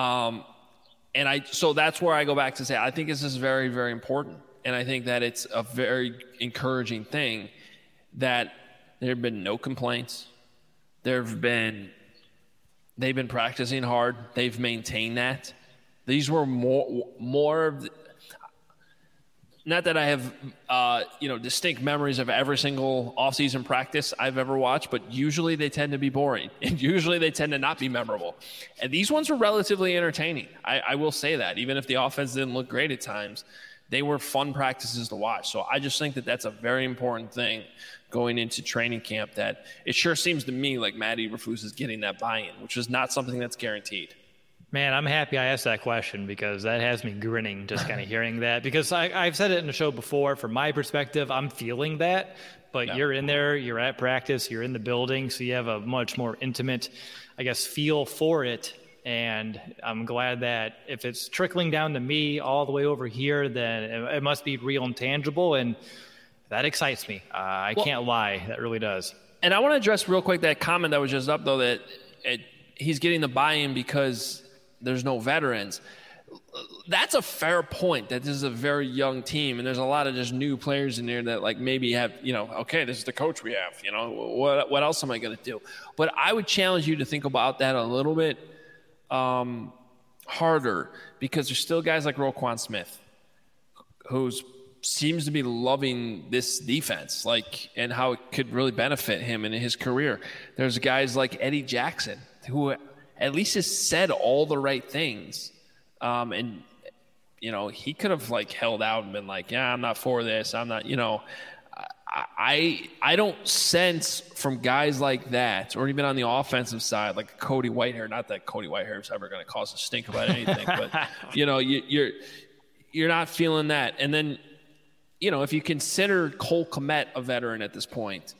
Speaker 1: So that's where I go back to say, I think this is very, very important. And I think that it's a very encouraging thing that there have been no complaints. They've been practicing hard. They've maintained that. These were more of the, not that I have, distinct memories of every single offseason practice I've ever watched, but usually they tend to be boring, and usually they tend to not be memorable. And these ones were relatively entertaining. I will say that. Even if the offense didn't look great at times, they were fun practices to watch. So I just think that that's a very important thing going into training camp, that it sure seems to me like Matt Eberflus is getting that buy-in, which is not something that's guaranteed.
Speaker 2: Man, I'm happy I asked that question, because that has me grinning just kind of hearing that. Because I've said it in the show before, from my perspective, I'm feeling that. But You're in there, you're at practice, you're in the building, so you have a much more intimate, feel for it. And I'm glad that if it's trickling down to me all the way over here, then it must be real and tangible. And that excites me. I can't lie. That really does.
Speaker 1: And I want to address real quick that comment that was just up, though, that he's getting the buy-in because there's no veterans. That's a fair point, that this is a very young team, and there's a lot of just new players in there that maybe have, okay, this is the coach we have, what else am I going to do? But I would challenge you to think about that a little bit harder, because there's still guys like Roquan Smith who seems to be loving this defense, and how it could really benefit him in his career. There's guys like Eddie Jackson, who at least has said all the right things. And, he could have held out and been I'm not for this. I'm not, I don't sense from guys like that, or even on the offensive side, like Cody Whitehair, not that Cody Whitehair is ever going to cause a stink about anything, but, you're not feeling that. And then, if you consider Cole Kmet a veteran at this point,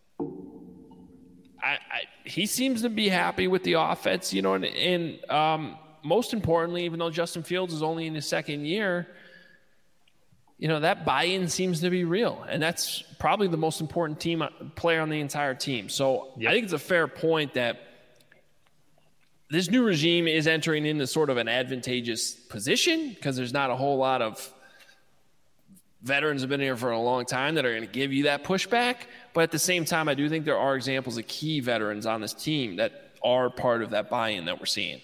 Speaker 1: he seems to be happy with the offense, and most importantly, even though Justin Fields is only in his second year, that buy-in seems to be real, and that's probably the most important player on the entire team. So I think it's a fair point that this new regime is entering into sort of an advantageous position, because there's not a whole lot of veterans have been here for a long time that are going to give you that pushback. But at the same time, I do think there are examples of key veterans on this team that are part of that buy-in that we're seeing.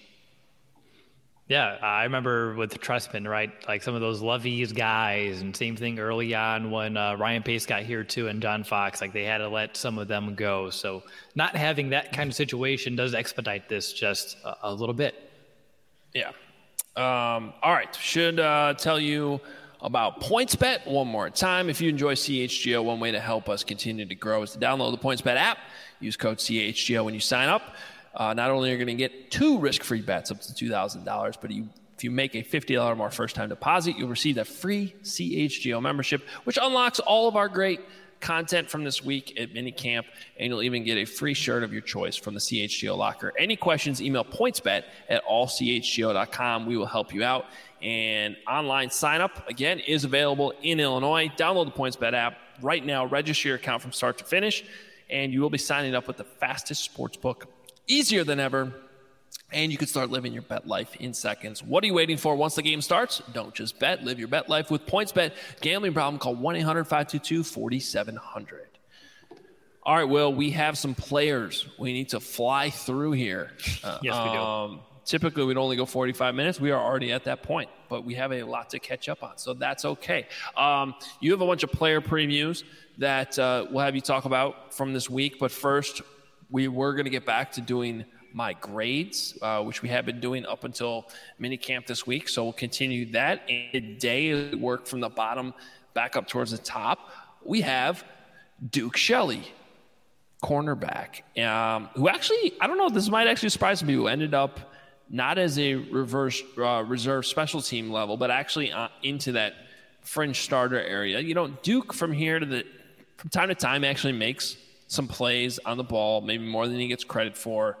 Speaker 2: Yeah, I remember with Trestman, right? Some of those Lovey's guys, and same thing early on when Ryan Pace got here too, and John Fox, they had to let some of them go. So not having that kind of situation does expedite this just a little bit.
Speaker 1: Yeah. All right. Should tell you about PointsBet one more time. If you enjoy CHGO, one way to help us continue to grow is to download the PointsBet app. Use code CHGO when you sign up. Not only are you going to get 2 risk-free bets up to $2,000, but if you make a $50 or more first-time deposit, you'll receive a free CHGO membership, which unlocks all of our great content from this week at minicamp, and you'll even get a free shirt of your choice from the CHGO locker. Any questions, email pointsbet@allchgo.com. We will help you out. And online sign-up, again, is available in Illinois. Download the PointsBet app right now. Register your account from start to finish, and you will be signing up with the fastest sportsbook, easier than ever, and you can start living your bet life in seconds. What are you waiting for? Once the game starts, don't just bet. Live your bet life with PointsBet. Gambling problem, call 1-800-522-4700. All right, Will, we have some players we need to fly through here.
Speaker 2: Yes, we do.
Speaker 1: Typically, we'd only go 45 minutes. We are already at that point, but we have a lot to catch up on, so that's okay. You have a bunch of player previews that we'll have you talk about from this week, but first, we were going to get back to doing my grades, which we have been doing up until minicamp this week, so we'll continue that. And today, work from the bottom back up towards the top. We have Duke Shelley, cornerback, who actually, I don't know, this might actually surprise some people, ended up not as a reserve special team level, but actually into that fringe starter area. Duke from time to time actually makes some plays on the ball, maybe more than he gets credit for.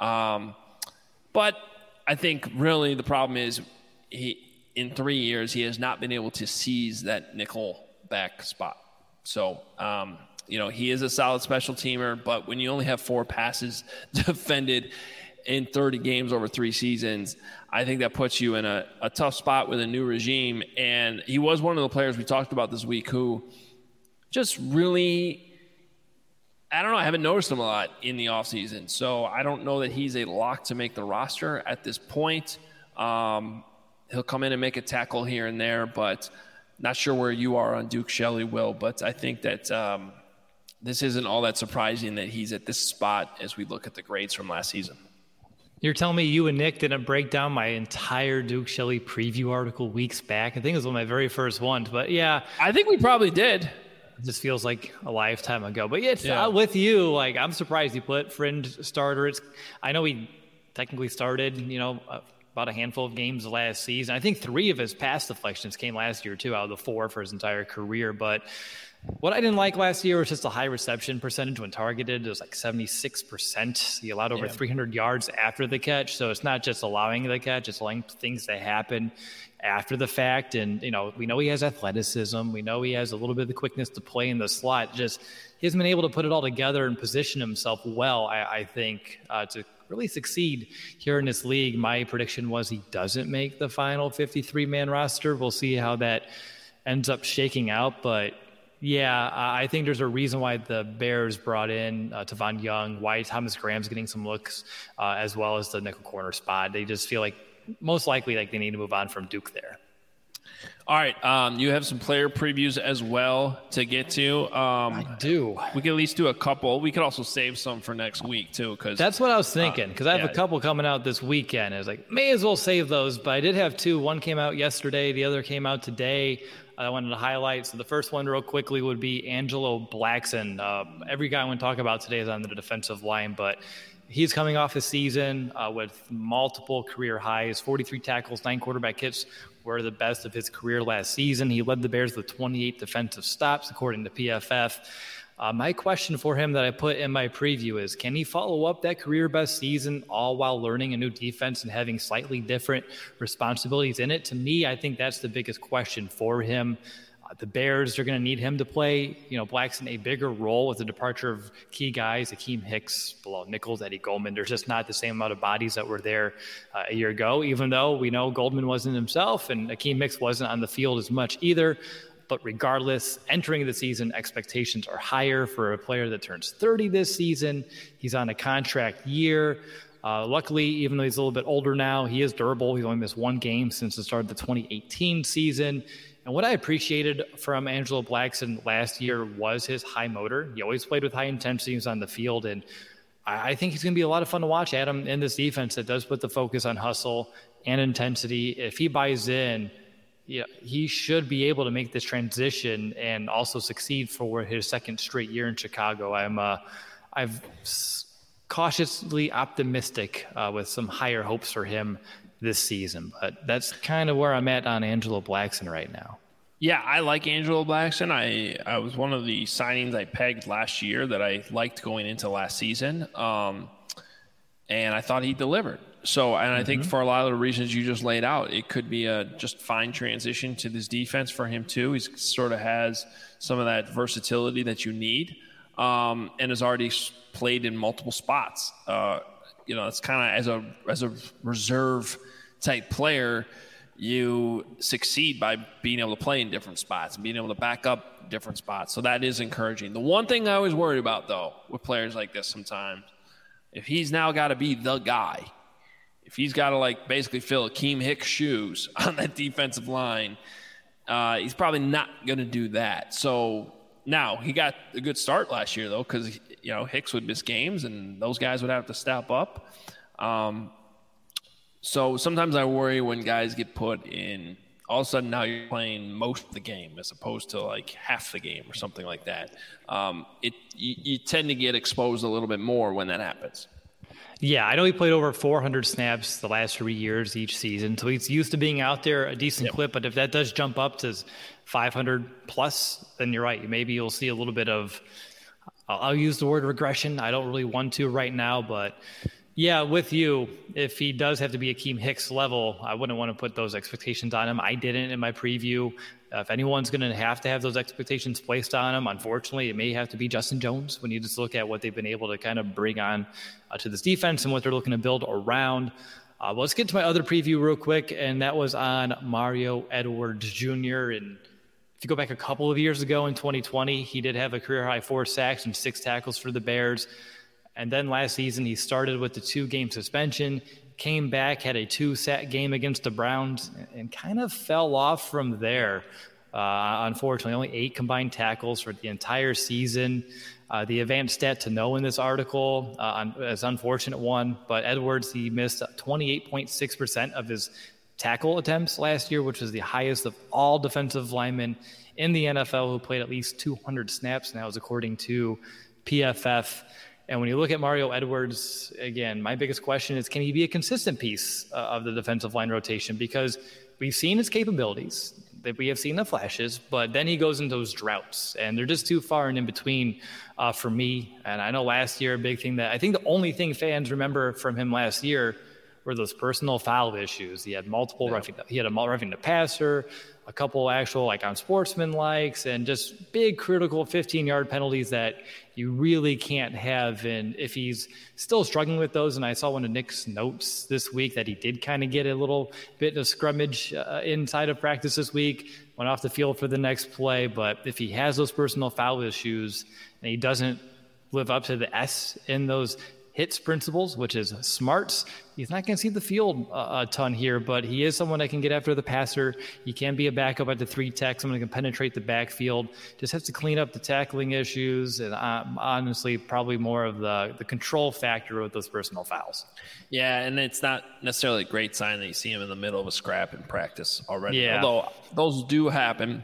Speaker 1: But I think really the problem is in 3 years, he has not been able to seize that nickel back spot. So He is a solid special teamer, but when you only have 4 passes defended in 30 games over 3 seasons, I think that puts you in a tough spot with a new regime. And he was one of the players we talked about this week who just really, I don't know, I haven't noticed him a lot in the offseason. So I don't know that he's a lock to make the roster at this point. He'll come in and make a tackle here and there, but not sure where you are on Duke Shelley, Will. But I think that this isn't all that surprising that he's at this spot as we look at the grades from last season.
Speaker 2: You're telling me you and Nick didn't break down my entire Duke Shelley preview article weeks back? I think it was one of my very first ones, but yeah.
Speaker 1: I think we probably did.
Speaker 2: It just feels like a lifetime ago. But yeah, with you, like, I'm surprised you put fringe starter. I know he technically started, about a handful of games last season. I think 3 of his pass deflections came last year, too, out of the 4 for his entire career. But what I didn't like last year was just a high reception percentage when targeted. It was like 76%. He allowed over 300 yards after the catch. So it's not just allowing the catch, it's allowing things to happen after the fact. And, we know he has athleticism. We know he has a little bit of the quickness to play in the slot. Just he hasn't been able to put it all together and position himself well, I think, to really succeed here in this league. My prediction was he doesn't make the final 53-man roster. We'll see how that ends up shaking out. But yeah, I think there's a reason why the Bears brought in Tavon Young, why Thomas Graham's getting some looks, as well as the nickel corner spot. They just feel like most likely they need to move on from Duke there.
Speaker 1: All right, you have some player previews as well to get to.
Speaker 2: I do.
Speaker 1: We could at least do a couple. We could also save some for next week too, because
Speaker 2: that's what I was thinking. Because I have a couple coming out this weekend. I was like, may as well save those. But I did have 2. One came out yesterday. The other came out today. I wanted to highlight. So the first one real quickly would be Angelo Blackson. Every guy I want to talk about today is on the defensive line, but he's coming off a season with multiple career highs, 43 tackles, 9 quarterback hits were the best of his career last season. He led the Bears with 28 defensive stops, according to PFF. My question for him that I put in my preview is, can he follow up that career best season all while learning a new defense and having slightly different responsibilities in it? To me, I think that's the biggest question for him. The Bears are going to need him to play, Blackson a bigger role with the departure of key guys, Akeem Hicks, Bilal Nichols, Eddie Goldman. There's just not the same amount of bodies that were there a year ago, even though we know Goldman wasn't himself and Akeem Hicks wasn't on the field as much either. But regardless, entering the season, expectations are higher for a player that turns 30 this season. He's on a contract year. Luckily, even though he's a little bit older now, he is durable. He's only missed 1 game since the start of the 2018 season. And what I appreciated from Angelo Blackson last year was his high motor. He always played with high intensity. He was on the field. And I think he's going to be a lot of fun to watch, Adam, in this defense that does put the focus on hustle and intensity. If he buys in, he should be able to make this transition and also succeed for his 2nd straight year in Chicago. I'm cautiously optimistic with some higher hopes for him this season, but that's kind of where I'm at on Angelo Blackson right now.
Speaker 1: Yeah, I like Angelo Blackson. I was one of the signings I pegged last year that I liked going into last season, and I thought he delivered. So, and I think for a lot of the reasons you just laid out, it could be a just fine transition to this defense for him too. He sort of has some of that versatility that you need, and has already played in multiple spots. It's kind of as a reserve type player, you succeed by being able to play in different spots and being able to back up different spots. So that is encouraging. The one thing I always worry about, though, with players like this sometimes, if he's now got to be the guy, if he's got to basically fill Akeem Hicks' shoes on that defensive line, he's probably not going to do that. So now he got a good start last year, though, because Hicks would miss games and those guys would have to step up. So sometimes I worry when guys get put in, all of a sudden now you're playing most of the game as opposed to half the game or something like that. You tend to get exposed a little bit more when that happens.
Speaker 2: Yeah, I know he played over 400 snaps the last 3 years each season, so he's used to being out there a decent clip. But if that does jump up to 500 plus, then you're right. Maybe you'll see a little bit of, I'll use the word regression. I don't really want to right now, but Yeah, with you, if he does have to be Akeem Hicks level, I wouldn't want to put those expectations on him. I didn't in my preview. If anyone's going to have those expectations placed on him, unfortunately, it may have to be Justin Jones when you just look at what they've been able to kind of bring on to this defense and what they're looking to build around. Well, let's get to my other preview real quick, and that was on Mario Edwards Jr. And if you go back a couple of years ago in 2020, he did have a career-high 4 sacks and 6 tackles for the Bears. And then last season, he started with the 2-game suspension, came back, had a 2-sack game against the Browns, and kind of fell off from there. Unfortunately, only 8 combined tackles for the entire season. The advanced stat to know in this article is an unfortunate one, but Edwards, he missed 28.6% of his tackle attempts last year, which was the highest of all defensive linemen in the NFL who played at least 200 snaps. Now, is according to PFF. And when you look at Mario Edwards, again, my biggest question is, can he be a consistent piece of the defensive line rotation? Because we've seen his capabilities, that we have seen the flashes, but then he goes into those droughts, and they're just too far and in between for me. And I know last year, a big thing that I think the only thing fans remember from him last year were those personal foul issues. He had multiple roughing the passer, a couple actual on sportsman likes, and just big critical 15-yard penalties that you really can't have. And if he's still struggling with those, and I saw one of Nick's notes this week that he did kind of get a little bit of scrummage inside of practice this week, went off the field for the next play. But if he has those personal foul issues and he doesn't live up to the S in those hits principles, which is smarts, he's not going to see the field a ton here, but he is someone that can get after the passer. He can be a backup at the 3-tech, someone who can penetrate the backfield. Just has to clean up the tackling issues, and honestly, probably more of the control factor with those personal fouls.
Speaker 1: Yeah, and it's not necessarily a great sign that you see him in the middle of a scrap in practice already.
Speaker 2: Yeah.
Speaker 1: Although those do happen.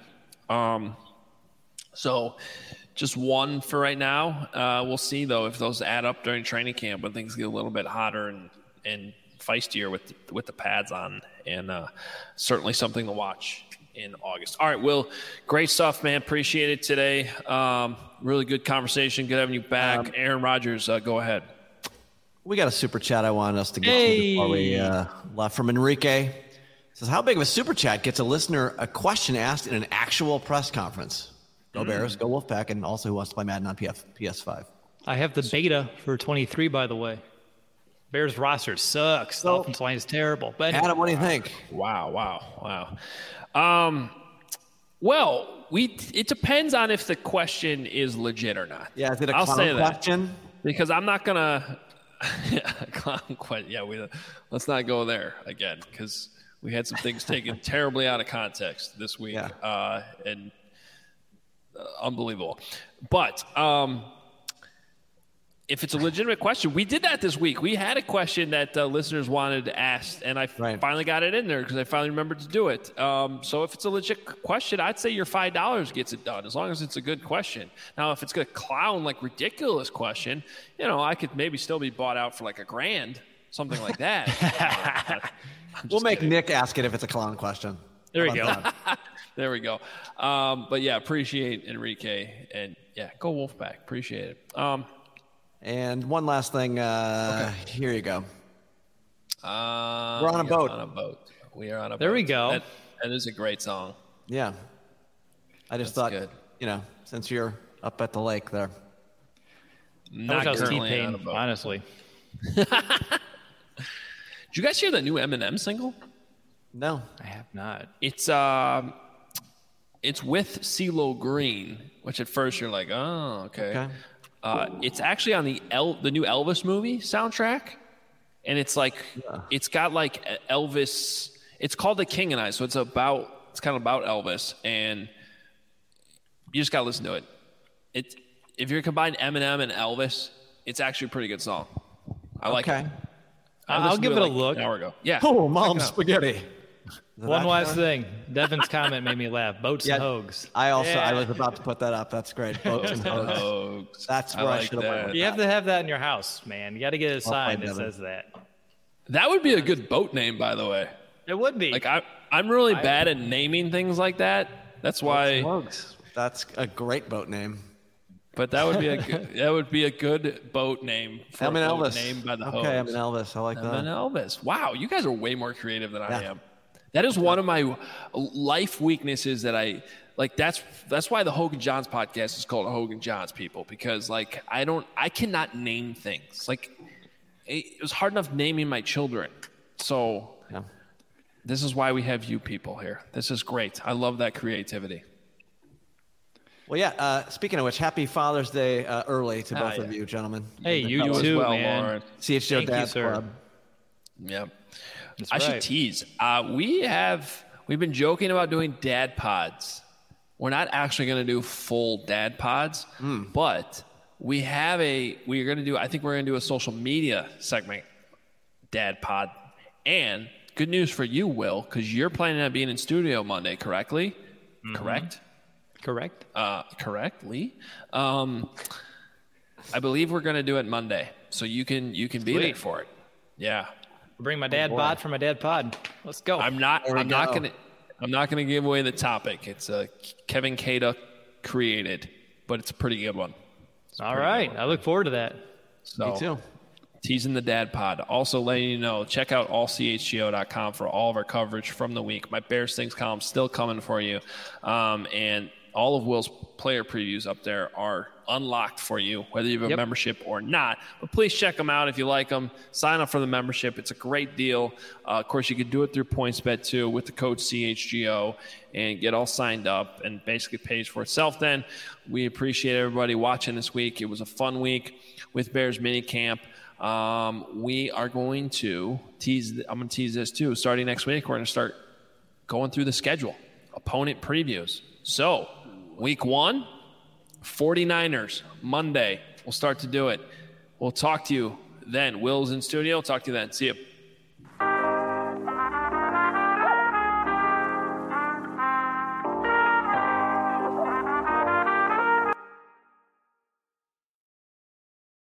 Speaker 1: So just one for right now. We'll see, though, if those add up during training camp when things get a little bit hotter and feistier with the pads on, and certainly something to watch in August. All right, Will, great stuff, man. Appreciate it today. Really good conversation. Good having you back. Aaron Rodgers, go ahead.
Speaker 3: We got a super chat I wanted us to get to before we left from Enrique. It says, how big of a super chat gets a listener a question asked in an actual press conference? Go Bears, go Wolfpack, and also who wants to play Madden on PS5.
Speaker 2: I have the beta for 23, by the way. Bears roster sucks. The offensive line is terrible. But anyway.
Speaker 3: Adam, what do you think?
Speaker 1: Wow. Well, it depends on if the question is legit or not.
Speaker 3: Yeah, is it a
Speaker 1: I'll say
Speaker 3: question?
Speaker 1: That, because I'm not gonna clown question. Yeah, let's not go there again, because we had some things taken terribly out of context this week, and unbelievable. But if it's a legitimate question, we did that this week. We had a question that listeners wanted to ask, and I finally got it in there because I finally remembered to do it. So if it's a legit question, I'd say your $5 gets it done, as long as it's a good question. Now, if it's a clown, ridiculous question, I could maybe still be bought out for $1,000, something like that.
Speaker 3: We'll make Nick ask it if it's a clown question.
Speaker 2: There we go.
Speaker 1: There we go. But yeah, appreciate Enrique, and yeah, go Wolfpack. Appreciate it.
Speaker 3: And one last thing. Here you go. We're on a boat.
Speaker 1: We are on a boat.
Speaker 2: There we go.
Speaker 1: That is a great song.
Speaker 3: Yeah. I just thought,
Speaker 1: good.
Speaker 3: Since you're up at the lake there.
Speaker 1: Not currently on a boat.
Speaker 2: Honestly.
Speaker 1: Did you guys hear the new Eminem single?
Speaker 3: No,
Speaker 2: I have not.
Speaker 1: It's with CeeLo Green, which at first you're like, oh, okay. It's actually on the new Elvis movie soundtrack, and it's it's got Elvis. It's called The King and I, so it's kind of about Elvis, and you just gotta listen to it. If you're combining Eminem and Elvis, it's actually a pretty good song. I like it.
Speaker 2: I'll give it a look.
Speaker 1: An hour ago. Yeah.
Speaker 3: Oh, Mom's spaghetti.
Speaker 2: One last thing. Devin's comment made me laugh. Boats and Hogs.
Speaker 3: I was about to put that up. That's great. Boats and Hogs. That's where I should have went.
Speaker 2: You have to have that in your house, man. You got to get a sign that says that.
Speaker 1: That would be a good boat name, by the way.
Speaker 2: It would be.
Speaker 1: I'm really bad at naming things like that. That's why.
Speaker 3: That's a great boat name.
Speaker 1: But that would be a good boat name. For
Speaker 3: I'm an Elvis.
Speaker 1: Named by the
Speaker 3: okay,
Speaker 1: host.
Speaker 3: I'm an Elvis. I like that.
Speaker 1: I'm an Elvis. Wow, you guys are way more creative than I am. That is one of my life weaknesses that I like. That's why the Hogan Johns podcast is called Hogan Johns, people, because like I cannot name things. Like it was hard enough naming my children. So this is why we have you people here. This is great. I love that creativity.
Speaker 3: Well, yeah. Speaking of which, happy Father's Day early to both of you, gentlemen.
Speaker 2: Hey, you too,
Speaker 1: as well,
Speaker 2: man.
Speaker 1: Lauren.
Speaker 3: CHGO Dad's Club.
Speaker 1: Yeah.
Speaker 2: That's
Speaker 1: I should
Speaker 2: right.
Speaker 1: tease. We've been joking about doing dad pods. We're not actually going to do full dad pods, but we're going to do, I think we're going to do a social media segment dad pod. And good news for you, Will, because you're planning on being in studio Monday, correctly? Mm-hmm. Correct? Correctly. I believe we're going to do it Monday, so you can be there for it. Yeah.
Speaker 2: Bring my dad bod for my dad pod. Let's go.
Speaker 1: I'm not gonna give away the topic. It's a Kevin Cada created, but it's a pretty good one.
Speaker 2: All right. I look forward to that.
Speaker 1: So,
Speaker 3: Me too.
Speaker 1: Teasing the dad pod. Also letting you know, check out allchgo.com for all of our coverage from the week. My Bears Things column still coming for you. And all of Will's player previews up there are unlocked for you, whether you have a membership or not. But please check them out if you like them. Sign up for the membership. It's a great deal. Of course, you can do it through PointsBet too with the code CHGO and get all signed up and basically pays for itself then. We appreciate everybody watching this week. It was a fun week with Bears minicamp. We are going to tease. I'm going to tease this too. Starting next week, we're going to start going through the schedule, opponent previews. So, week 1, 49ers, Monday. We'll start to do it. We'll talk to you then. Will's in studio. Talk to you then. See you.